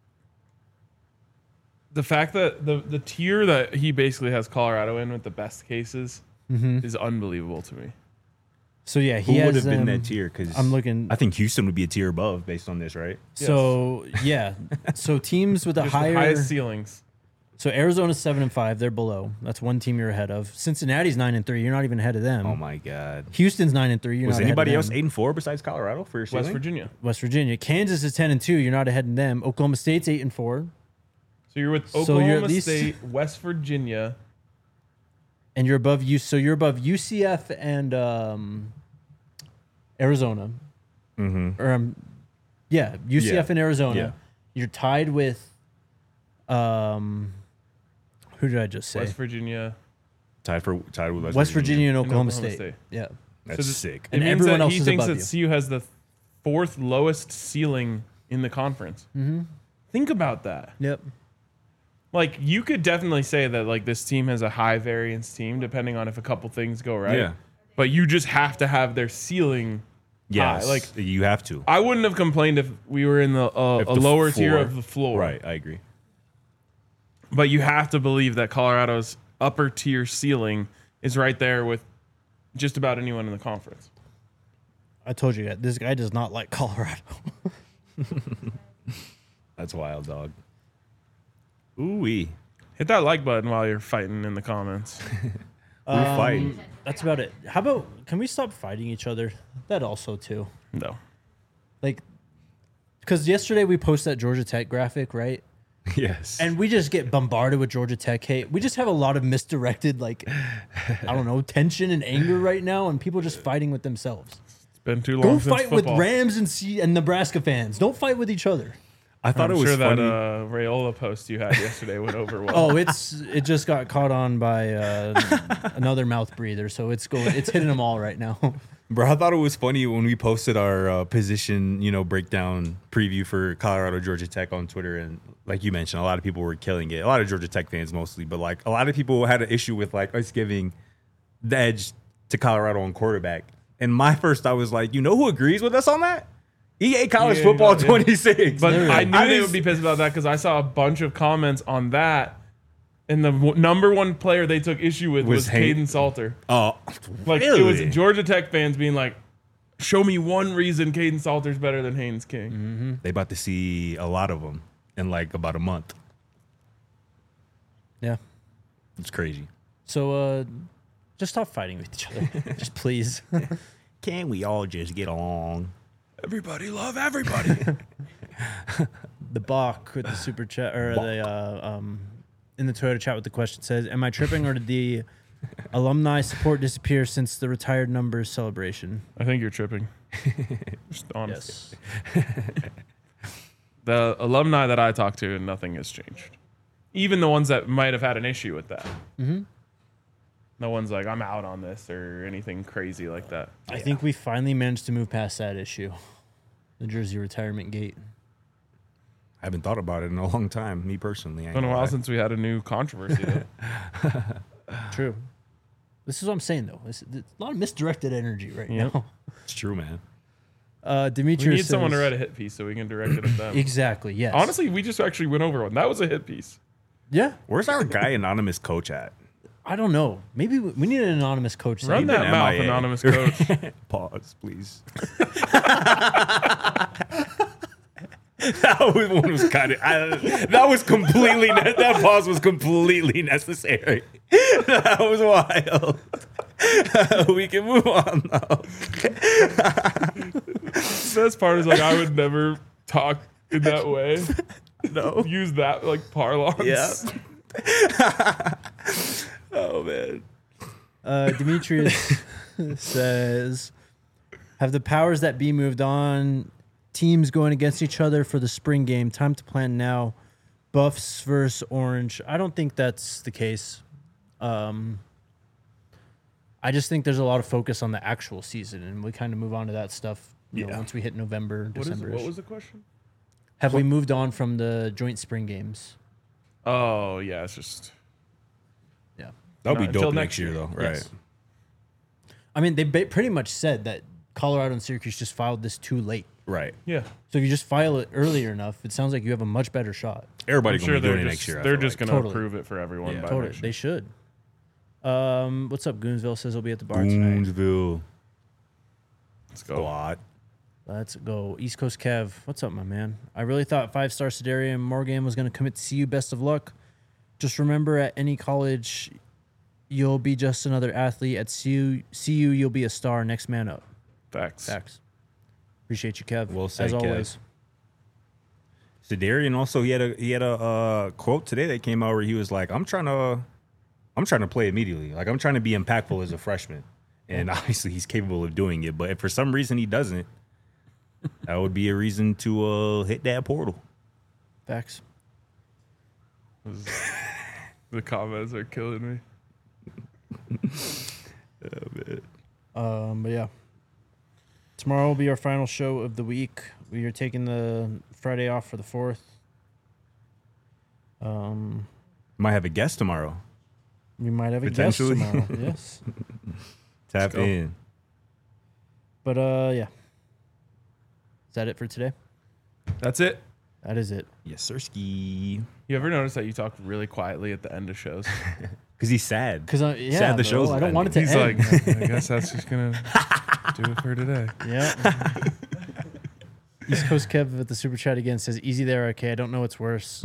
The fact that the the tier that he basically has Colorado in with the best cases is unbelievable to me. So yeah, he who has would have been them- that tier? Because I'm looking. I think Houston would be a tier above based on this, right? So yeah, so teams with a Just the higher. highest ceilings. So Arizona's seven and five. They're below. That's one team you're ahead of. Cincinnati's nine and three. You're not even ahead of them. Oh my god. Houston's nine and three. You're Was not anybody ahead else of them. eight and four besides Colorado for your West ceiling? Virginia. West Virginia. Kansas is ten and two. You're not ahead of them. Oklahoma State's eight and four, So you're with So Oklahoma you're at least- State, West Virginia. and you're above you. So you're above U C F and um, Arizona. Mm-hmm. Or um, yeah, U C F Yeah. and Arizona. Yeah. You're tied with um, who did I just say? West Virginia. Tied for tied with West, West Virginia and And Oklahoma, Oklahoma State. State. Yeah. That's So this- sick. And It means everyone that else he is thinks above that you. C U has the fourth lowest ceiling in the conference. Mm-hmm. Think about that. Yep. Like you could definitely say that like this team has a high variance team depending on if a couple things go right. Yeah. But you just have to have their ceiling Yes, high. Like you have to. I wouldn't have complained if we were in the uh, If a the lower tier floor- of the floor. Right, I agree. But you have to believe that Colorado's upper tier ceiling is right there with just about anyone in the conference. I told you that this guy does not like Colorado. That's wild, dog. Ooh wee. Hit that like button while you're fighting in the comments. We're fighting. That's about it. How about can we stop fighting each other? That also too. No. Like, because yesterday we posted that Georgia Tech graphic, right? Yes. And we just get bombarded with Georgia Tech hate. We just have a lot of misdirected, like, I don't know, tension and anger right now, and people just fighting with themselves. It's been too long Go since fight with football. Rams and C- and Nebraska fans. Don't fight with each other. I thought I'm it was sure funny. that uh, Rayola post you had yesterday went over well. Oh, it's it just got caught on by uh, another mouth breather, so it's going, it's hitting them all right now. Bro, I thought it was funny when we posted our uh, position, you know, breakdown preview for Colorado Georgia Tech on Twitter, and like you mentioned, a lot of people were killing it. A lot of Georgia Tech fans mostly, but like a lot of people had an issue with like us giving the edge to Colorado on quarterback. And my first thought was like, you know who agrees with us on that? E A College Yeah, Football yeah. twenty-six. But Literally. I knew I they just- would be pissed about that because I saw a bunch of comments on that, and the w- number one player they took issue with Was was, Hay- Caden Salter. Oh, Like really? it was Georgia Tech fans being like, "Show me one reason Caden Salter's better than Haynes King." Mm-hmm. They about to see a lot of them in like about a month. Yeah. It's crazy. So uh, just stop fighting with each other, just please. Can we all just get along? Everybody love everybody. The Bach with the super chat or the uh, um, in the Toyota chat with the question says, "Am I tripping or did the alumni support disappear since the retired numbers celebration?" I think you're tripping. Just honest. Yes. The alumni that I talked to, nothing has changed. Even the ones that might have had an issue with that. Mm-hmm. No one's like, I'm out on this or anything crazy like that. I think we finally managed to move past that issue, the jersey retirement gate. I haven't thought about it in a long time, me personally. I It's been a ain't while gonna lie. since we had a new controversy. Though. True. This is what I'm saying though. It's, it's a lot of misdirected energy right Yep. now. It's true, man. Uh, We Demetrius need someone to says- write a hit piece so we can direct it at them. Exactly. Yes. Honestly, we just actually went over one. That was a hit piece. Yeah. Where's our guy anonymous coach at? I don't know. Maybe we, we need an anonymous coach. Run He's segment. that been mouth, M I A. anonymous coach. Pause, please. That was one was kind of. That was completely. Ne- that pause was completely necessary. That was wild. We can move on though. The best part is like I would never talk in that way. No. Use that like parlance. Yeah. Oh man. Uh, Demetrius says, "Have the powers that be moved on? Teams going against each other for the spring game. Time to plan now. Buffs versus Orange. I don't think that's the case. Um, I just think there's a lot of focus on the actual season, and we kind of move on to that stuff. You know, Yeah. once we hit November, What, is, December. what was the question? Have we moved on from the joint spring games? Oh yeah, it's just Yeah. That'll No, be until dope next next year, year. though, right? Yes. I mean, they ba- pretty much said that Colorado and Syracuse just filed this too late. Right. yeah. So if you just file it earlier enough, it sounds like you have a much better shot. Everybody I'm gonna sure be doing they're it just next year. I they're feel just like. gonna Totally. approve it for everyone. Yeah. by Totally, next they year. should. Um, what's up? Goonsville says he'll be at the bar tonight. Boonesville Let's go. squad. Let's go. East Coast Kev, what's up, my man? I really thought five-star Sedarian Morgan was going to commit to C U. Best of luck. Just remember, at any college, you'll be just another athlete. At C U, C U you'll be a star. Next man up. Facts. Facts. Appreciate you, Kev. Well said, as Kev. always. Sedarian also he had a he had a uh, quote today that came out where he was like, "I'm trying to, I'm trying to play immediately. Like I'm trying to be impactful as a freshman." And obviously he's capable of doing it, but if for some reason he doesn't, that would be a reason to uh, hit that portal. Facts. The comments are killing me. Um, but yeah, tomorrow will be our final show of the week. We are taking the Friday off for the fourth. Um, Might have a guest tomorrow. we might have a guest Potentially. tomorrow. Yes, Tap go. in. but uh, yeah. Is that it for today? That's it. That is it. Yes, sir, ski. You ever notice that you talk really quietly at the end of shows? Because he's sad. Because I yeah, Sad the bro, show's I don't want it to He's end. like, I guess that's just gonna do it for today. Yeah. East Coast Kev at the super chat again says, "Easy there, okay. I don't know what's worse."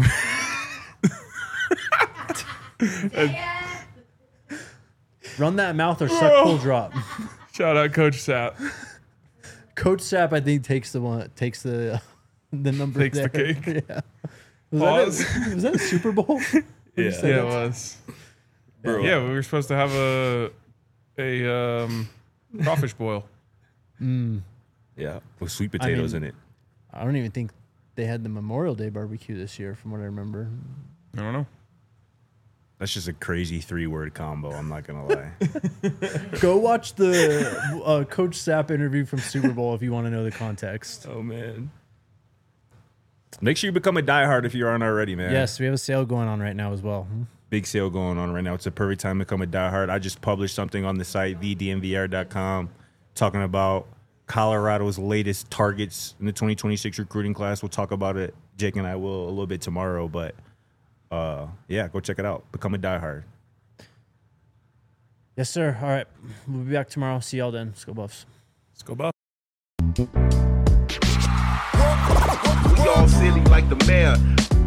Run that mouth or suck full drop. Shout out Coach Sapp. Coach Sapp, I think, takes the one takes the uh, the number. Takes the there. cake. Yeah. Was Pause. that, a, was that a Super Bowl? Yeah. said Yeah, that? it was. Bro. Yeah, we were supposed to have a a um, crawfish boil. Mm, Yeah. With sweet potatoes mean- in it. I don't even think they had the Memorial Day barbecue this year, from what I remember. I don't know. That's just a crazy three word combo. I'm not going to lie. Go watch the uh, Coach Sapp interview from Super Bowl if you want to know the context. Oh, man. Make sure you become a diehard if you aren't already, man. Yes, we have a sale going on right now as well. Big sale going on right now. It's a perfect time to become a diehard. I just published something on the site, the d m v r dot com, talking about Colorado's latest targets in the twenty twenty-six recruiting class. We'll talk about it. Jake and I will a little bit tomorrow, but uh, yeah, go check it out. Become a diehard. Yes, sir. All right. We'll be back tomorrow. See y'all then. Let's go Buffs. Let's go, Buff. We all silly like the mayor.